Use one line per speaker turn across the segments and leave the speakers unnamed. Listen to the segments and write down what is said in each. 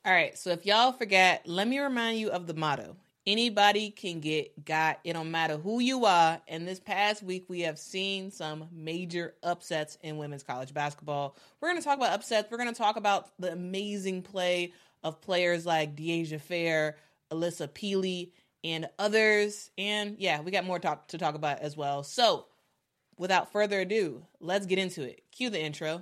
All right, so if y'all forget, let me remind you of the motto. Anybody can get got. It don't matter who you are. And this past week, we have seen some major upsets in women's college basketball. We're going to talk about upsets. We're going to talk about the amazing play of players like Deasia Fair, Alyssa Peely, and others. And yeah, we got more to talk about as well. So without further ado, let's get into it. Cue the intro.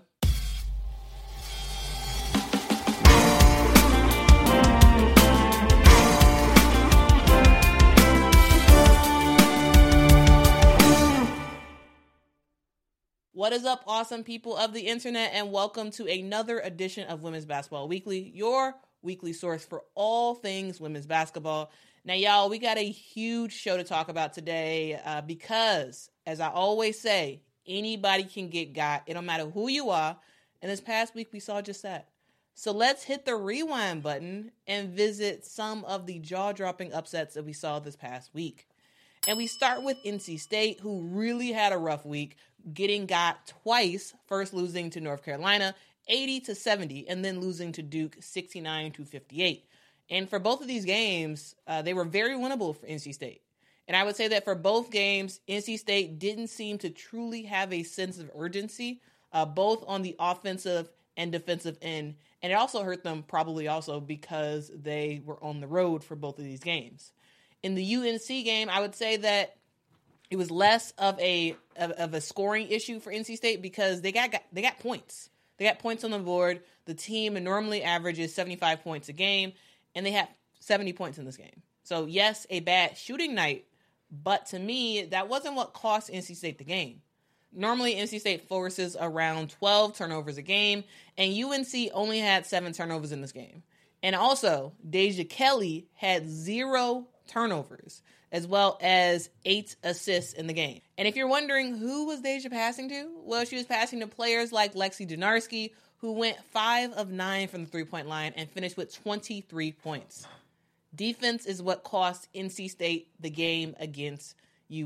What is up, awesome people of the internet, and welcome to another edition of Women's Basketball Weekly, your weekly source for all things women's basketball. Now, y'all, we got a huge show to talk about today because, as I always say, anybody can get got. It don't matter who you are, and this past week we saw just that. So let's hit the rewind button and visit some of the jaw-dropping upsets that we saw this past week. And we start with NC State, who really had a rough week, getting got twice, first losing to North Carolina 80-70, and then losing to Duke 69-58. And for both of these games, they were very winnable for NC State. And I would say that for both games, NC State didn't seem to truly have a sense of urgency, both on the offensive and defensive end. And it also hurt them probably also because they were on the road for both of these games. In the UNC game, I would say that it was less of a scoring issue for NC State because they got points. They got points on the board. The team normally averages 75 points a game, and they had 70 points in this game. So yes, a bad shooting night, but to me, that wasn't what cost NC State the game. Normally, NC State forces around 12 turnovers a game, and UNC only had 7 turnovers in this game. And also, Deja Kelly had 0 turnovers, as well as 8 assists in the game. And if you're wondering who was Deja passing to, well, she was passing to players like Lexi Donarski, who went 5 of 9 from the three-point line and finished with 23 points. Defense is what cost NC State the game against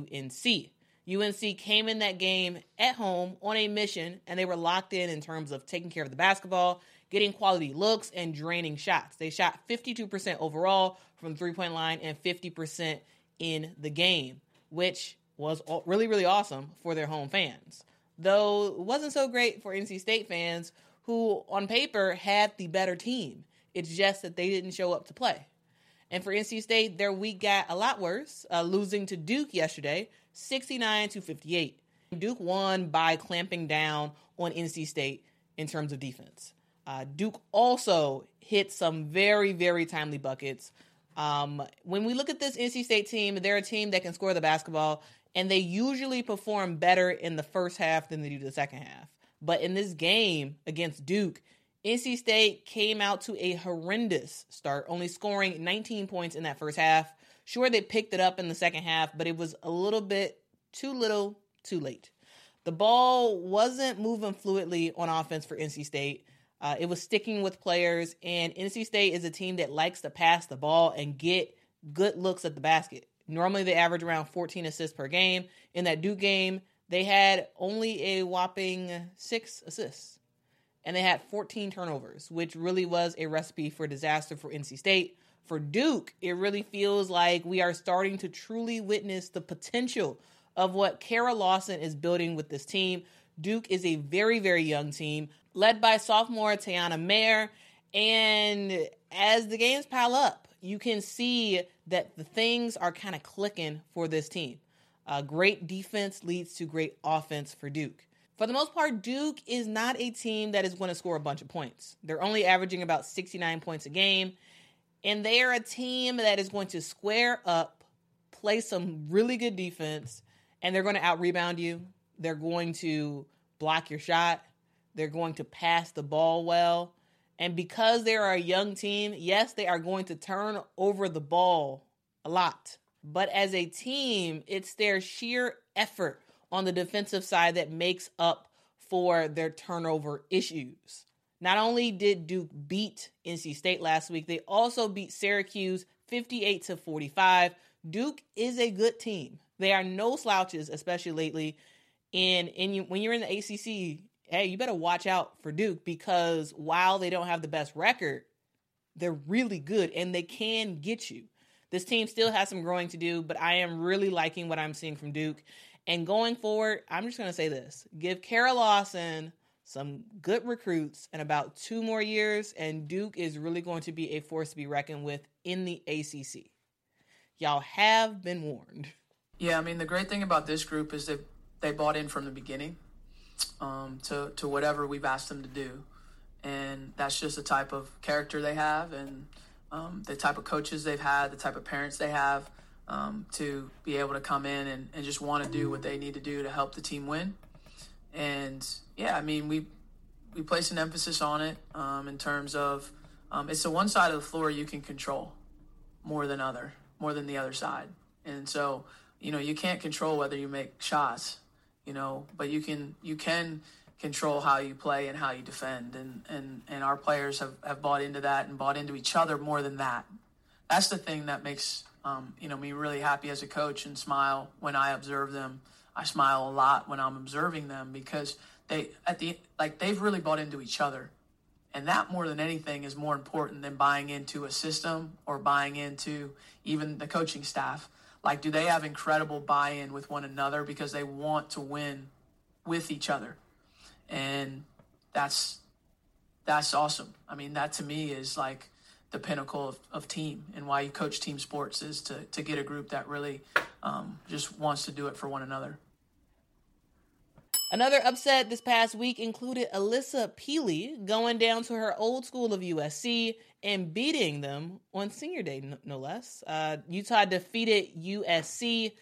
UNC. UNC came in that game at home on a mission, and they were locked in terms of taking care of the basketball, getting quality looks, and draining shots. They shot 52% overall from the three-point line and 50% in the game, which was really, really awesome for their home fans. Though it wasn't so great for NC State fans who, on paper, had the better team. It's just that they didn't show up to play. And for NC State, their week got a lot worse, losing to Duke yesterday, 69-58. Duke won by clamping down on NC State in terms of defense. Duke also hit some very, very timely buckets. When we look at this NC State team, they're a team that can score the basketball, and they usually perform better in the first half than they do the second half. But in this game against Duke, NC State came out to a horrendous start, only scoring 19 points in that first half. Sure, they picked it up in the second half, but it was a little bit too little, too late. The ball wasn't moving fluidly on offense for NC State. It was sticking with players, and NC State is a team that likes to pass the ball and get good looks at the basket. Normally, they average around 14 assists per game. In that Duke game, they had only a whopping 6 assists, and they had 14 turnovers, which really was a recipe for disaster for NC State. For Duke, it really feels like we are starting to truly witness the potential of what Kara Lawson is building with this team. Duke is a very, very young team, led by sophomore Tiana Mayer. And as the games pile up, you can see that the things are kind of clicking for this team. Great defense leads to great offense for Duke. For the most part, Duke is not a team that is going to score a bunch of points. They're only averaging about 69 points a game. And they are a team that is going to square up, play some really good defense, and they're going to out-rebound you. They're going to block your shot. They're going to pass the ball well. And because they are a young team, yes, they are going to turn over the ball a lot. But as a team, it's their sheer effort on the defensive side that makes up for their turnover issues. Not only did Duke beat NC State last week, they also beat Syracuse 58-45. Duke is a good team. They are no slouches, especially lately. And when you're in the ACC, hey, you better watch out for Duke because while they don't have the best record, They're really good, and they can get you. This team still has some growing to do, but I am really liking what I'm seeing from Duke. And going forward, I'm just going to say this. Give Kara Lawson some good recruits in about 2 more years, and Duke is really going to be a force to be reckoned with in the ACC. Y'all have been warned.
Yeah, I mean, the great thing about this group is that they bought in from the beginning to whatever we've asked them to do. And that's just the type of character they have and the type of coaches they've had, the type of parents they have to be able to come in and just want to do what they need to do to help the team win. And, yeah, I mean, we place an emphasis on it in terms of it's the one side of the floor you can control more than the other side. And so, you can't control whether you make shots, but you can control how you play and how you defend. And our players have bought into that and bought into each other more than that. That's the thing that makes, me really happy as a coach and smile when I observe them. I smile a lot when I'm observing them because they've really bought into each other. And that more than anything is more important than buying into a system or buying into even the coaching staff. Like, do they have incredible buy-in with one another because they want to win with each other? And that's awesome. I mean, that to me is like the pinnacle of team, and why you coach team sports is to get a group that really just wants to do it for one another.
Another upset this past week included Alyssa Peely going down to her old school of USC and beating them on senior day, no less. Utah defeated USC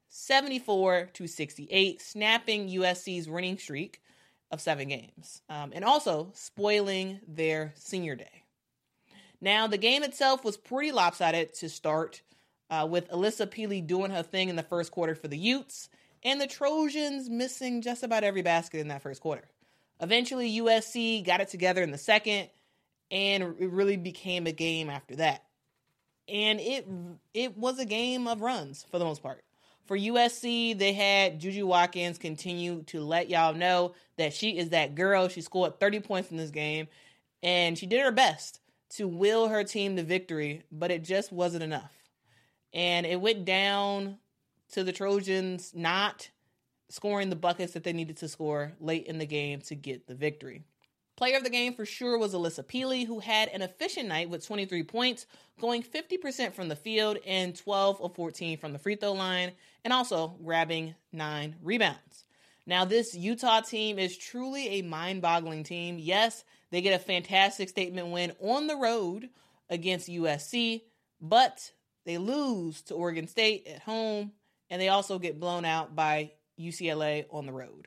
74-68, snapping USC's winning streak of 7 games, and also spoiling their senior day. Now, the game itself was pretty lopsided to start, with Alyssa Peely doing her thing in the first quarter for the Utes, and the Trojans missing just about every basket in that first quarter. Eventually, USC got it together in the second, and it really became a game after that. And it was a game of runs for the most part. For USC, they had Juju Watkins continue to let y'all know that she is that girl. She scored 30 points in this game, and she did her best to will her team to victory, but it just wasn't enough. And it went down to the Trojans not scoring the buckets that they needed to score late in the game to get the victory. Player of the game for sure was Alyssa Peely, who had an efficient night with 23 points, going 50% from the field and 12 of 14 from the free throw line, and also grabbing 9 rebounds. Now, this Utah team is truly a mind-boggling team. Yes, they get a fantastic statement win on the road against USC, but they lose to Oregon State at home, and they also get blown out by UCLA on the road.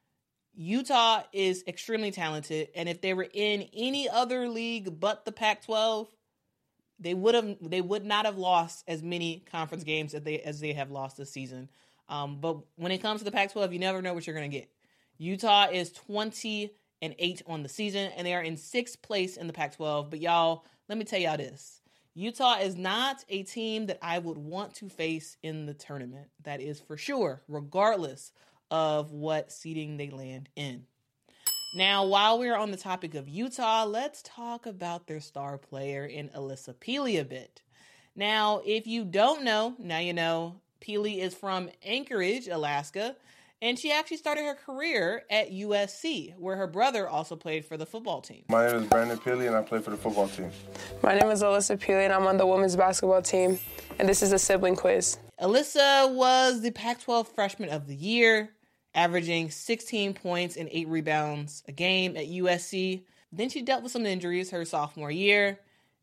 Utah is extremely talented, and if they were in any other league but the Pac-12, they would not have lost as many conference games as they have lost this season. But when it comes to the Pac-12, you never know what you're going to get. Utah is 20-8 on the season, and they are in 6th place in the Pac-12. But y'all, let me tell y'all this. Utah is not a team that I would want to face in the tournament. That is for sure, regardless of what seeding they land in. Now, while we're on the topic of Utah, let's talk about their star player in Alyssa Peely a bit. Now, if you don't know, now you know. Peely is from Anchorage, Alaska, and she actually started her career at USC, where her brother also played for the football team.
My name is Brandon Peely, and I play for the football team.
My name is Alyssa Peely, and I'm on the women's basketball team, and this is a sibling quiz.
Alyssa was the Pac-12 Freshman of the Year, averaging 16 points and 8 rebounds a game at USC. Then she dealt with some injuries her sophomore year,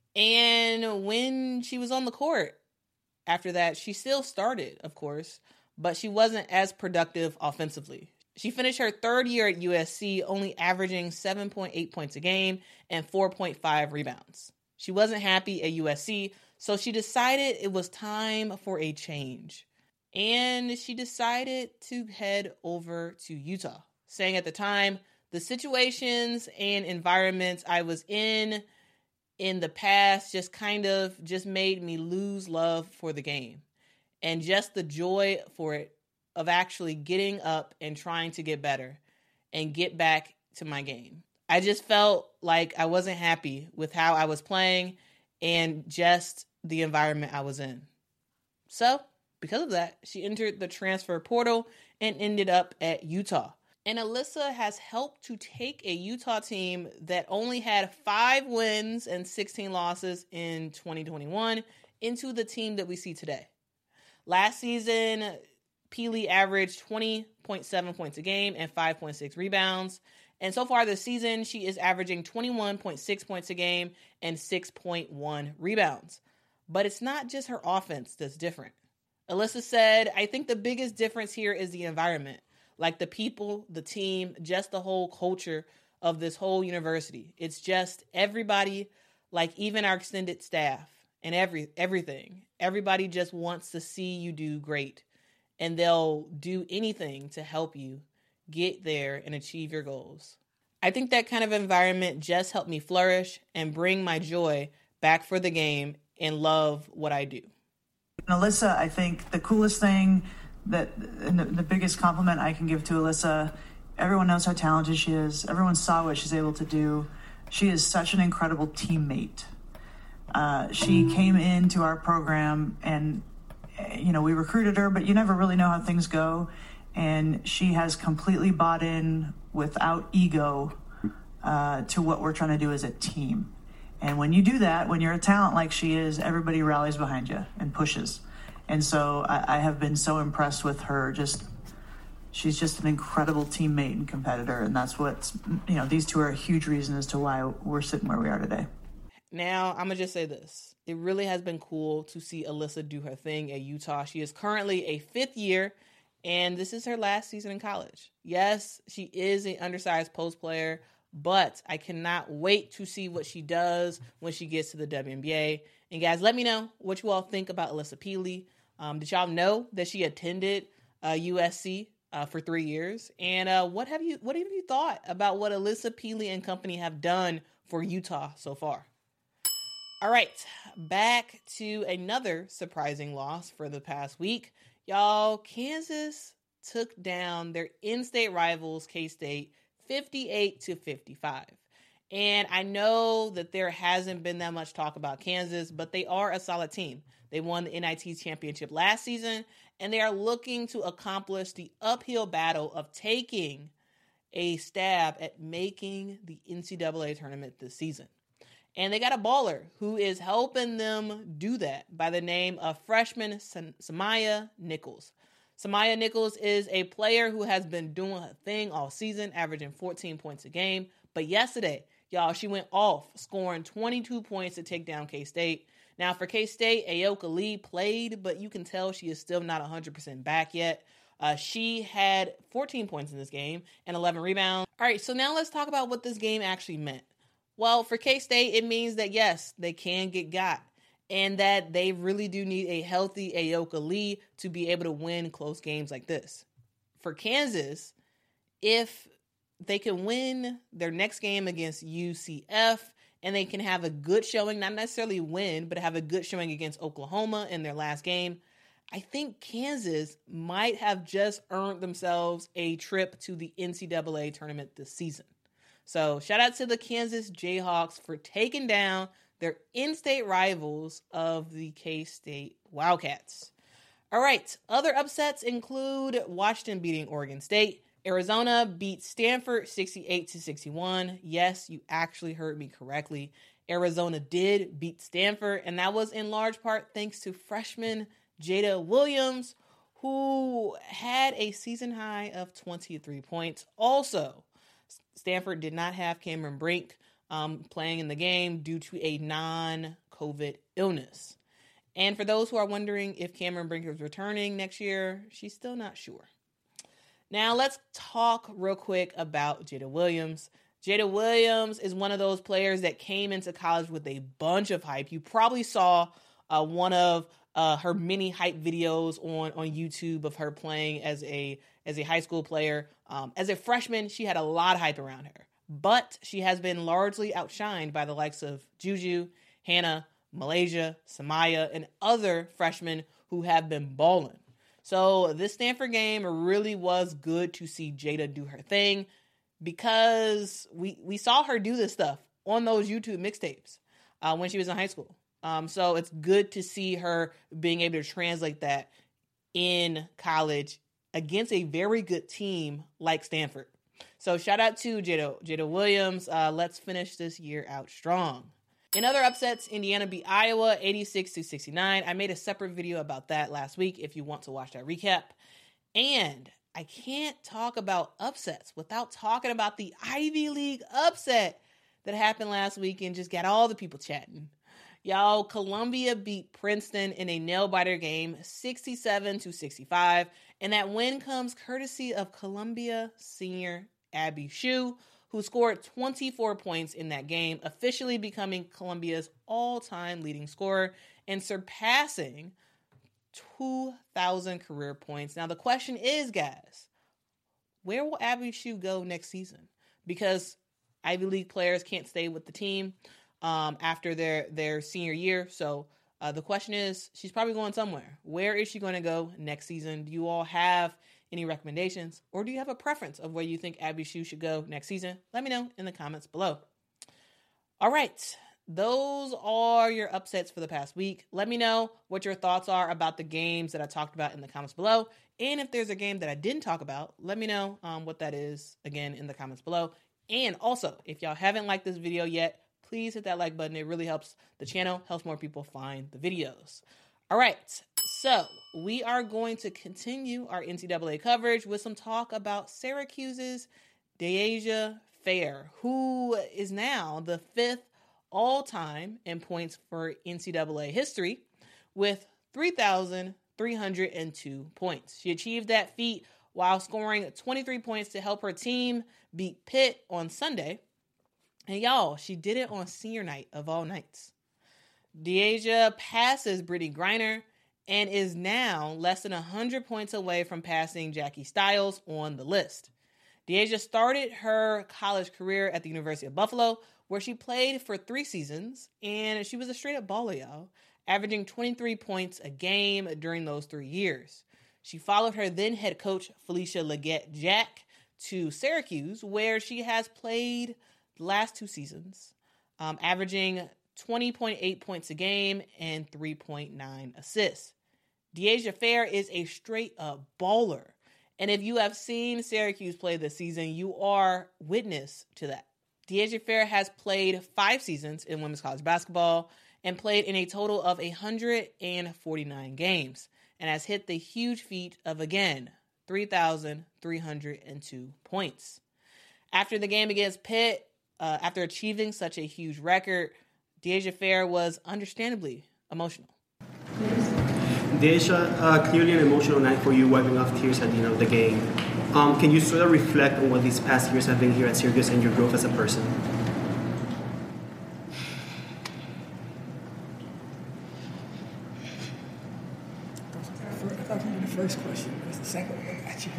and when she was on the court after that, she still started, of course, but she wasn't as productive offensively. She finished her 3rd year at USC, only averaging 7.8 points a game and 4.5 rebounds. She wasn't happy at USC, so she decided it was time for a change. And she decided to head over to Utah, saying at the time, the situations and environments I was in the past just made me lose love for the game. And just the joy for it of actually getting up and trying to get better and get back to my game. I just felt like I wasn't happy with how I was playing, and just the environment I was in. So, because of that, she entered the transfer portal and ended up at Utah. And Alyssa has helped to take a Utah team that only had 5 wins and 16 losses in 2021 into the team that we see today. Last season, Pili averaged 20.7 points a game and 5.6 rebounds. And so far this season, she is averaging 21.6 points a game and 6.1 rebounds. But it's not just her offense that's different. Alyssa said, I think the biggest difference here is the environment. Like the people, the team, just the whole culture of this whole university. It's just everybody, like even our extended staff and everything. Everybody just wants to see you do great. And they'll do anything to help you get there and achieve your goals. I think that kind of environment just helped me flourish and bring my joy back for the game and love what I do.
Alyssa, I think the coolest thing and the biggest compliment I can give to Alyssa, everyone knows how talented she is. Everyone saw what she's able to do. She is such an incredible teammate. She came into our program and, we recruited her, but you never really know how things go. And she has completely bought in without ego to what we're trying to do as a team. And when you do that, when you're a talent like she is, everybody rallies behind you and pushes. And so I have been so impressed with her. She's just an incredible teammate and competitor. And that's what, these two are a huge reason as to why we're sitting where we are today.
Now, I'm going to just say this. It really has been cool to see Alyssa do her thing at Utah. She is currently a 5th year, and this is her last season in college. Yes, she is an undersized post player, but I cannot wait to see what she does when she gets to the WNBA. And guys, let me know what you all think about Alyssa Pili. Did y'all know that she attended USC for 3 years? And what have you thought about what Alyssa Pili and company have done for Utah so far? All right, back to another surprising loss for the past week. Y'all, Kansas took down their in-state rivals, K-State, 58-55. And I know that there hasn't been that much talk about Kansas, but they are a solid team. They won the NIT championship last season, and they are looking to accomplish the uphill battle of taking a stab at making the NCAA tournament this season. And they got a baller who is helping them do that by the name of freshman Samaya Nichols. Samaya Nichols is a player who has been doing her thing all season, averaging 14 points a game. But yesterday, y'all, she went off, scoring 22 points to take down K-State. Now, for K-State, Ayoka Lee played, but you can tell she is still not 100% back yet. She had 14 points in this game and 11 rebounds. All right, so now let's talk about what this game actually meant. Well, for K-State, it means that, yes, they can get got, and that they really do need a healthy Ayoka Lee to be able to win close games like this. For Kansas, if they can win their next game against UCF and they can have a good showing, not necessarily win, but have a good showing against Oklahoma in their last game, I think Kansas might have just earned themselves a trip to the NCAA tournament this season. So shout out to the Kansas Jayhawks for taking down their in-state rivals of the K-State Wildcats. All right, other upsets include Washington beating Oregon State. Arizona beat Stanford 68-61. Yes, you actually heard me correctly. Arizona did beat Stanford, and that was in large part thanks to freshman Jada Williams, who had a season high of 23 points. Also, Stanford did not have Cameron Brink playing in the game due to a non-COVID illness. And for those who are wondering if Cameron Brink is returning next year, she's still not sure. Now let's talk real quick about Jada Williams. Jada Williams is one of those players that came into college with a bunch of hype. You probably saw one of her many hype videos on YouTube of her playing as a high school player. As a freshman, she had a lot of hype around her, but she has been largely outshined by the likes of Juju, Hannah, Malaysia, Samaya, and other freshmen who have been balling. So this Stanford game really was good to see Jada do her thing, because we saw her do this stuff on those YouTube mixtapes when she was in high school. So it's good to see her being able to translate that in college against a very good team like Stanford. So shout out to Jada Williams. Let's finish this year out strong. In other upsets, Indiana beat Iowa 86-69. I made a separate video about that last week if you want to watch that recap. And I can't talk about upsets without talking about the Ivy League upset that happened last week and just got all the people chatting. Y'all, Columbia beat Princeton in a nail-biter game 67-65. And that win comes courtesy of Columbia senior Abby Shue, who scored 24 points in that game, officially becoming Columbia's all-time leading scorer and surpassing 2,000 career points. Now, the question is, guys, where will Abby Shue go next season? Because Ivy League players can't stay with the team after their senior year. So the question is, she's probably going somewhere. Where is she going to go next season? Do you all have any recommendations, or do you have a preference of where you think Abby Shue should go next season? Let me know in the comments below. All right, those are your upsets for the past week. Let me know what your thoughts are about the games that I talked about in the comments below. And if there's a game that I didn't talk about, let me know what that is, again, in the comments below. And also, if y'all haven't liked this video yet, please hit that like button. It really helps the channel, helps more people find the videos. All right, so we are going to continue our NCAA coverage with some talk about Syracuse's Deasia Fair, who is now the 5th all-time in points for NCAA history with 3,302 points. She achieved that feat while scoring 23 points to help her team beat Pitt on Sunday. And y'all, she did it on senior night of all nights. Deasia passes Brittany Griner and is now less than 100 points away from passing Jackie Stiles on the list. Deasia started her college career at the University of Buffalo, where she played for 3 seasons, and she was a straight-up baller, y'all, averaging 23 points a game during those 3 years. She followed her then head coach, Felicia Leggett-Jack, to Syracuse, where she has played the last 2 seasons, averaging 20.8 points a game and 3.9 assists. Deasia Fair is a straight-up baller. And if you have seen Syracuse play this season, you are witness to that. Deasia Fair has played 5 seasons in women's college basketball and played in a total of 149 games and has hit the huge feat of, again, 3,302 points. After the game against Pitt, after achieving such a huge record, Deasia Fair was understandably emotional.
Deasia, clearly an emotional night for you, wiping off tears at the end of the game. Can you sort of reflect on what these past years have been here at Syracuse and your growth as a person?
I thought you were the first question. That's the second one. I got you.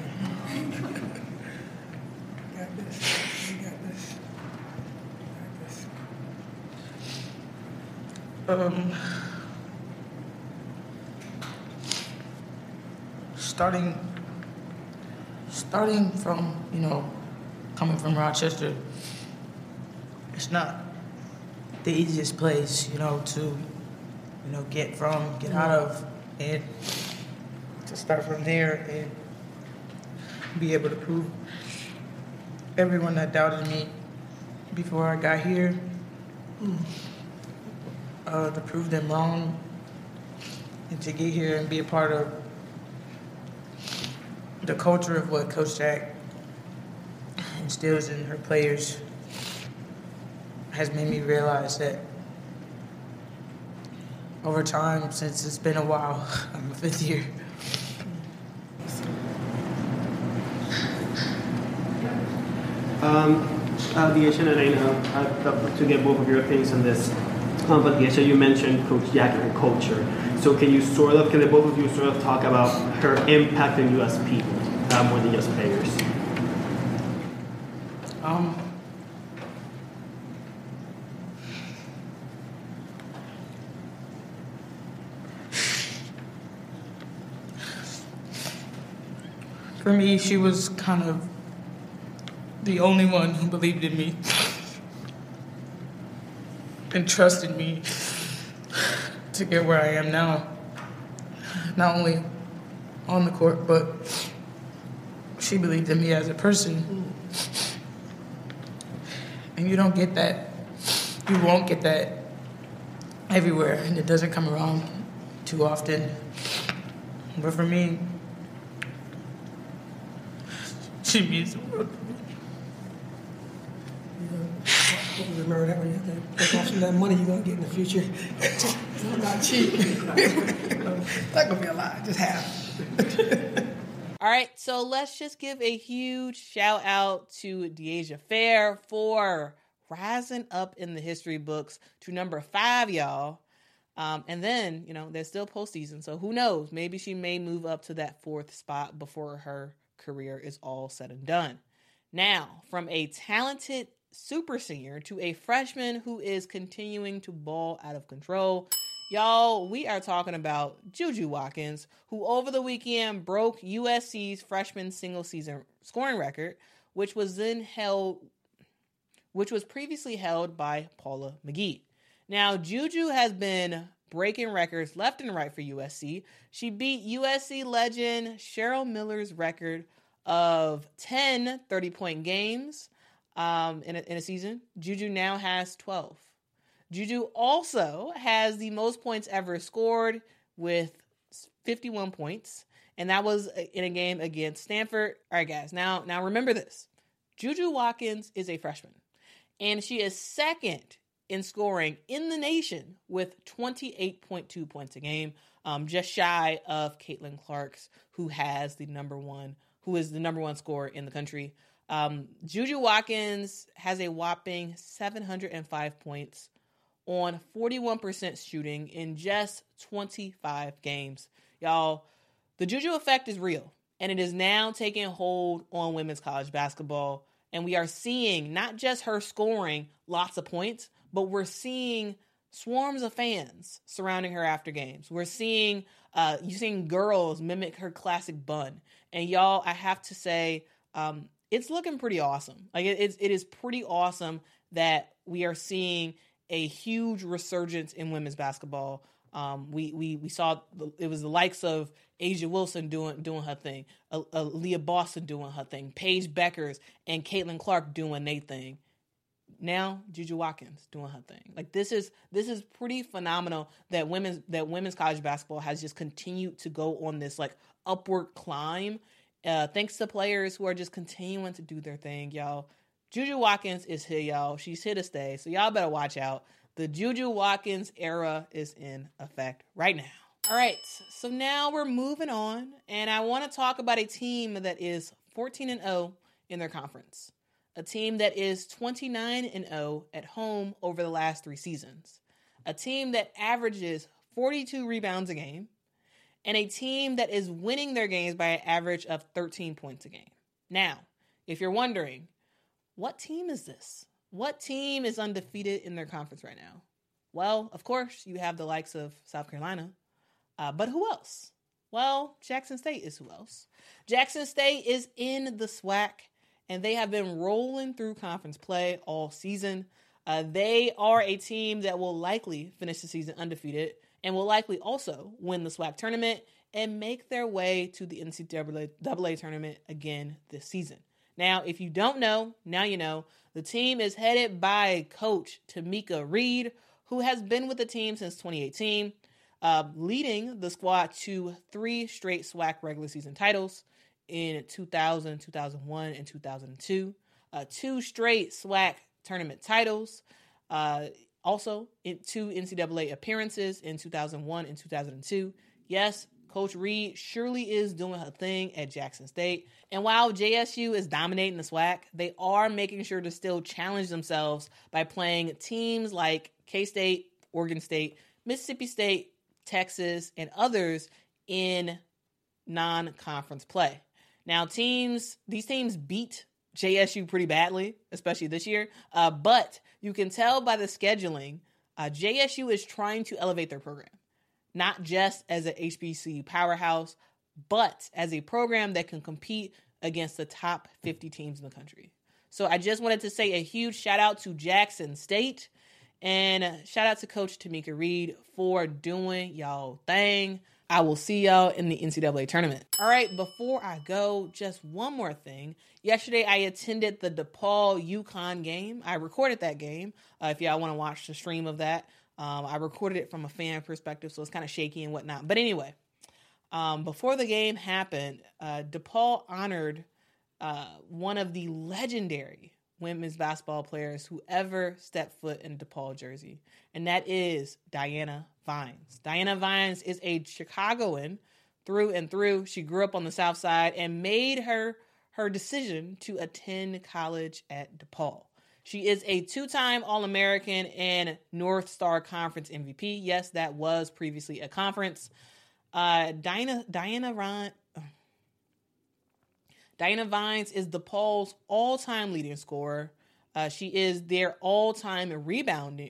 Got this. You got this.
Starting from, coming from Rochester, it's not the easiest place, to, get out of, and to start from there and be able to prove everyone that doubted me before I got here, to prove them wrong, and to get here and be a part of the culture of what Coach Jack instills in her players has made me realize that over time, since it's been a while, I'm a 5th year.
Deasia, and I know I'd love to get both of your opinions on this. But Deasia, you mentioned Coach Jack and her culture. So can the both of you sort of talk about her impact on you as people, more than just players?
For me, she was kind of the only one who believed in me and trusted me to get where I am now. Not only on the court, but she believed in me as a person. And you don't get that. You won't get that everywhere, and it doesn't come around too often. But for me, she means the world.
Remember that when you have to take off some of that money you're going to get in the future. It's not cheap. It's not going to be a lot, just half.
All right, so let's just give a huge shout out to De'Asia Fair for rising up in the history books to number 5, y'all. And then, there's still postseason, so who knows? Maybe she may move up to that 4th spot before her career is all said and done. Now, from a talented super senior to a freshman who is continuing to ball out of control, y'all, we are talking about Juju Watkins, who over the weekend broke USC's freshman single season scoring record, which was previously held by Paula McGee. Now, Juju has been breaking records left and right for USC. She beat USC legend Cheryl Miller's record of 10 30-point games in a season. Juju now has 12. Juju also has the most points ever scored with 51 points, and that was in a game against Stanford. All right, guys, now remember this. Juju Watkins is a freshman, and she is second in scoring in the nation with 28.2 points a game, just shy of Caitlin Clark's, who is the number one scorer in the country. Juju Watkins has a whopping 705 points on 41% shooting in just 25 games. Y'all, the Juju effect is real, and it is now taking hold on women's college basketball. And we are seeing not just her scoring lots of points, but we're seeing swarms of fans surrounding her after games. We're seeing girls mimic her classic bun. And y'all, I have to say, it's looking pretty awesome. Like it is pretty awesome that we are seeing a huge resurgence in women's basketball. We saw it was the likes of A'ja Wilson doing her thing, Leah Boston doing her thing, Paige Beckers and Caitlin Clark doing their thing. Now Juju Watkins doing her thing. Like this is pretty phenomenal that women's college basketball has just continued to go on this like upward climb. Thanks to players who are just continuing to do their thing, y'all. Juju Watkins is here, y'all. She's here to stay, so y'all better watch out. The Juju Watkins era is in effect right now. All right, so now we're moving on, and I want to talk about a team that is 14-0 in their conference. A team that is 29-0 at home over the last 3 seasons. A team that averages 42 rebounds a game, and a team that is winning their games by an average of 13 points a game. Now, if you're wondering, what team is this? What team is undefeated in their conference right now? Well, of course, you have the likes of South Carolina. But who else? Well, Jackson State is who else. Jackson State is in the SWAC, and they have been rolling through conference play all season. They are a team that will likely finish the season undefeated and will likely also win the SWAC tournament and make their way to the NCAA tournament again this season. Now, if you don't know, now you know. The team is headed by Coach Tamika Reed, who has been with the team since 2018, leading the squad to 3 straight SWAC regular season titles in 2000, 2001, and 2002. 2 straight SWAC tournament titles. Also, 2 NCAA appearances in 2001 and 2002. Yes, Coach Reed surely is doing her thing at Jackson State. And while JSU is dominating the SWAC, they are making sure to still challenge themselves by playing teams like K-State, Oregon State, Mississippi State, Texas, and others in non-conference play. Now, these teams beat JSU pretty badly, especially this year. But you can tell by the scheduling, JSU is trying to elevate their program. Not just as an HBCU powerhouse, but as a program that can compete against the top 50 teams in the country. So I just wanted to say a huge shout out to Jackson State And shout out to Coach Tamika Reed for doing y'all thing. I will see y'all in the NCAA tournament. All right, before I go, just one more thing. Yesterday, I attended the DePaul UConn game. I recorded that game. If y'all want to watch the stream of that, I recorded it from a fan perspective, so it's kind of shaky and whatnot. But anyway, before the game happened, DePaul honored one of the legendary women's basketball players who ever stepped foot in a DePaul jersey, and that is Diana Vines. Diana Vines is a Chicagoan through and through. She grew up on the South Side and made her decision to attend college at DePaul. She is a two-time All-American and North Star Conference MVP. Yes, that was previously a conference. Diana Vines is DePaul's all-time leading scorer. She is their all-time rebound.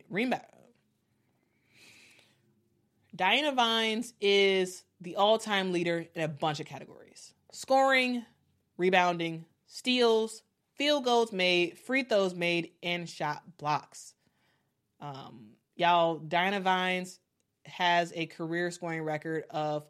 Diana Vines is the all-time leader in a bunch of categories: scoring, rebounding, steals, field goals made, free throws made, and shot blocks. Y'all, Diana Vines has a career scoring record of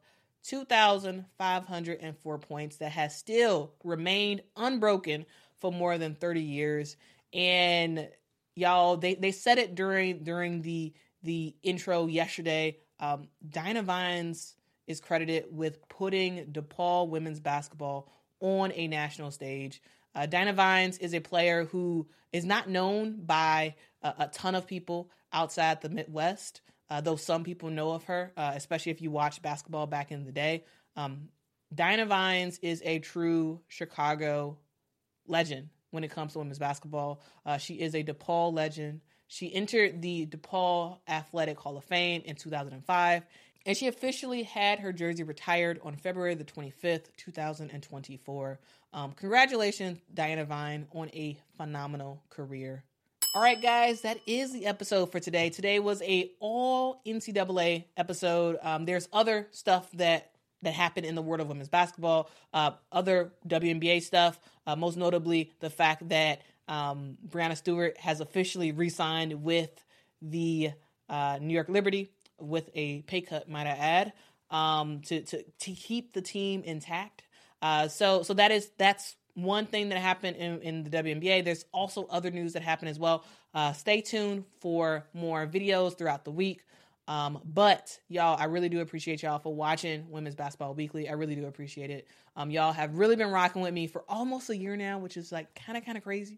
2,504 points that has still remained unbroken for more than 30 years. And y'all, they said it during the intro yesterday. Diana Vines is credited with putting DePaul women's basketball on a national stage. Diana Vines is a player who is not known by a ton of people outside the Midwest, though some people know of her, especially if you watch basketball back in the day. Diana Vines is a true Chicago legend when it comes to women's basketball. She is a DePaul legend. She entered the DePaul Athletic Hall of Fame in 2005, and she officially had her jersey retired on February the 25th, 2024. Congratulations, Diana Vine, on a phenomenal career. All right, guys, that is the episode for today. Today was a all NCAA episode. There's other stuff that happened in the world of women's basketball, other WNBA stuff, most notably the fact that Breanna Stewart has officially re-signed with the New York Liberty with a pay cut, might I add, to keep the team intact. So that's one thing that happened in the WNBA. There's also other news that happened as well. Stay tuned for more videos throughout the week. But y'all, I really do appreciate y'all for watching Women's Basketball Weekly. I really do appreciate it. Y'all have really been rocking with me for almost a year now, which is like kind of crazy.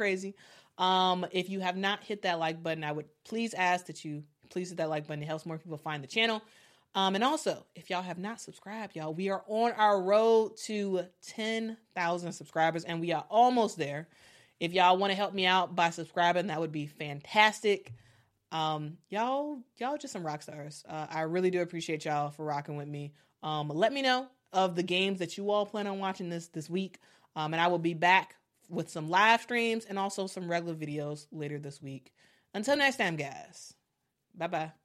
If you have not hit that like button, I would please ask that you please hit that like button. It helps more people find the channel. And also, if y'all have not subscribed, y'all, we are on our road to 10,000 subscribers, and we are almost there. If y'all want to help me out by subscribing, that would be fantastic. Y'all just some rock stars. I really do appreciate y'all for rocking with me. Let me know of the games that you all plan on watching this week. And I will be back with some live streams and also some regular videos later this week. Until next time, guys. Bye-bye.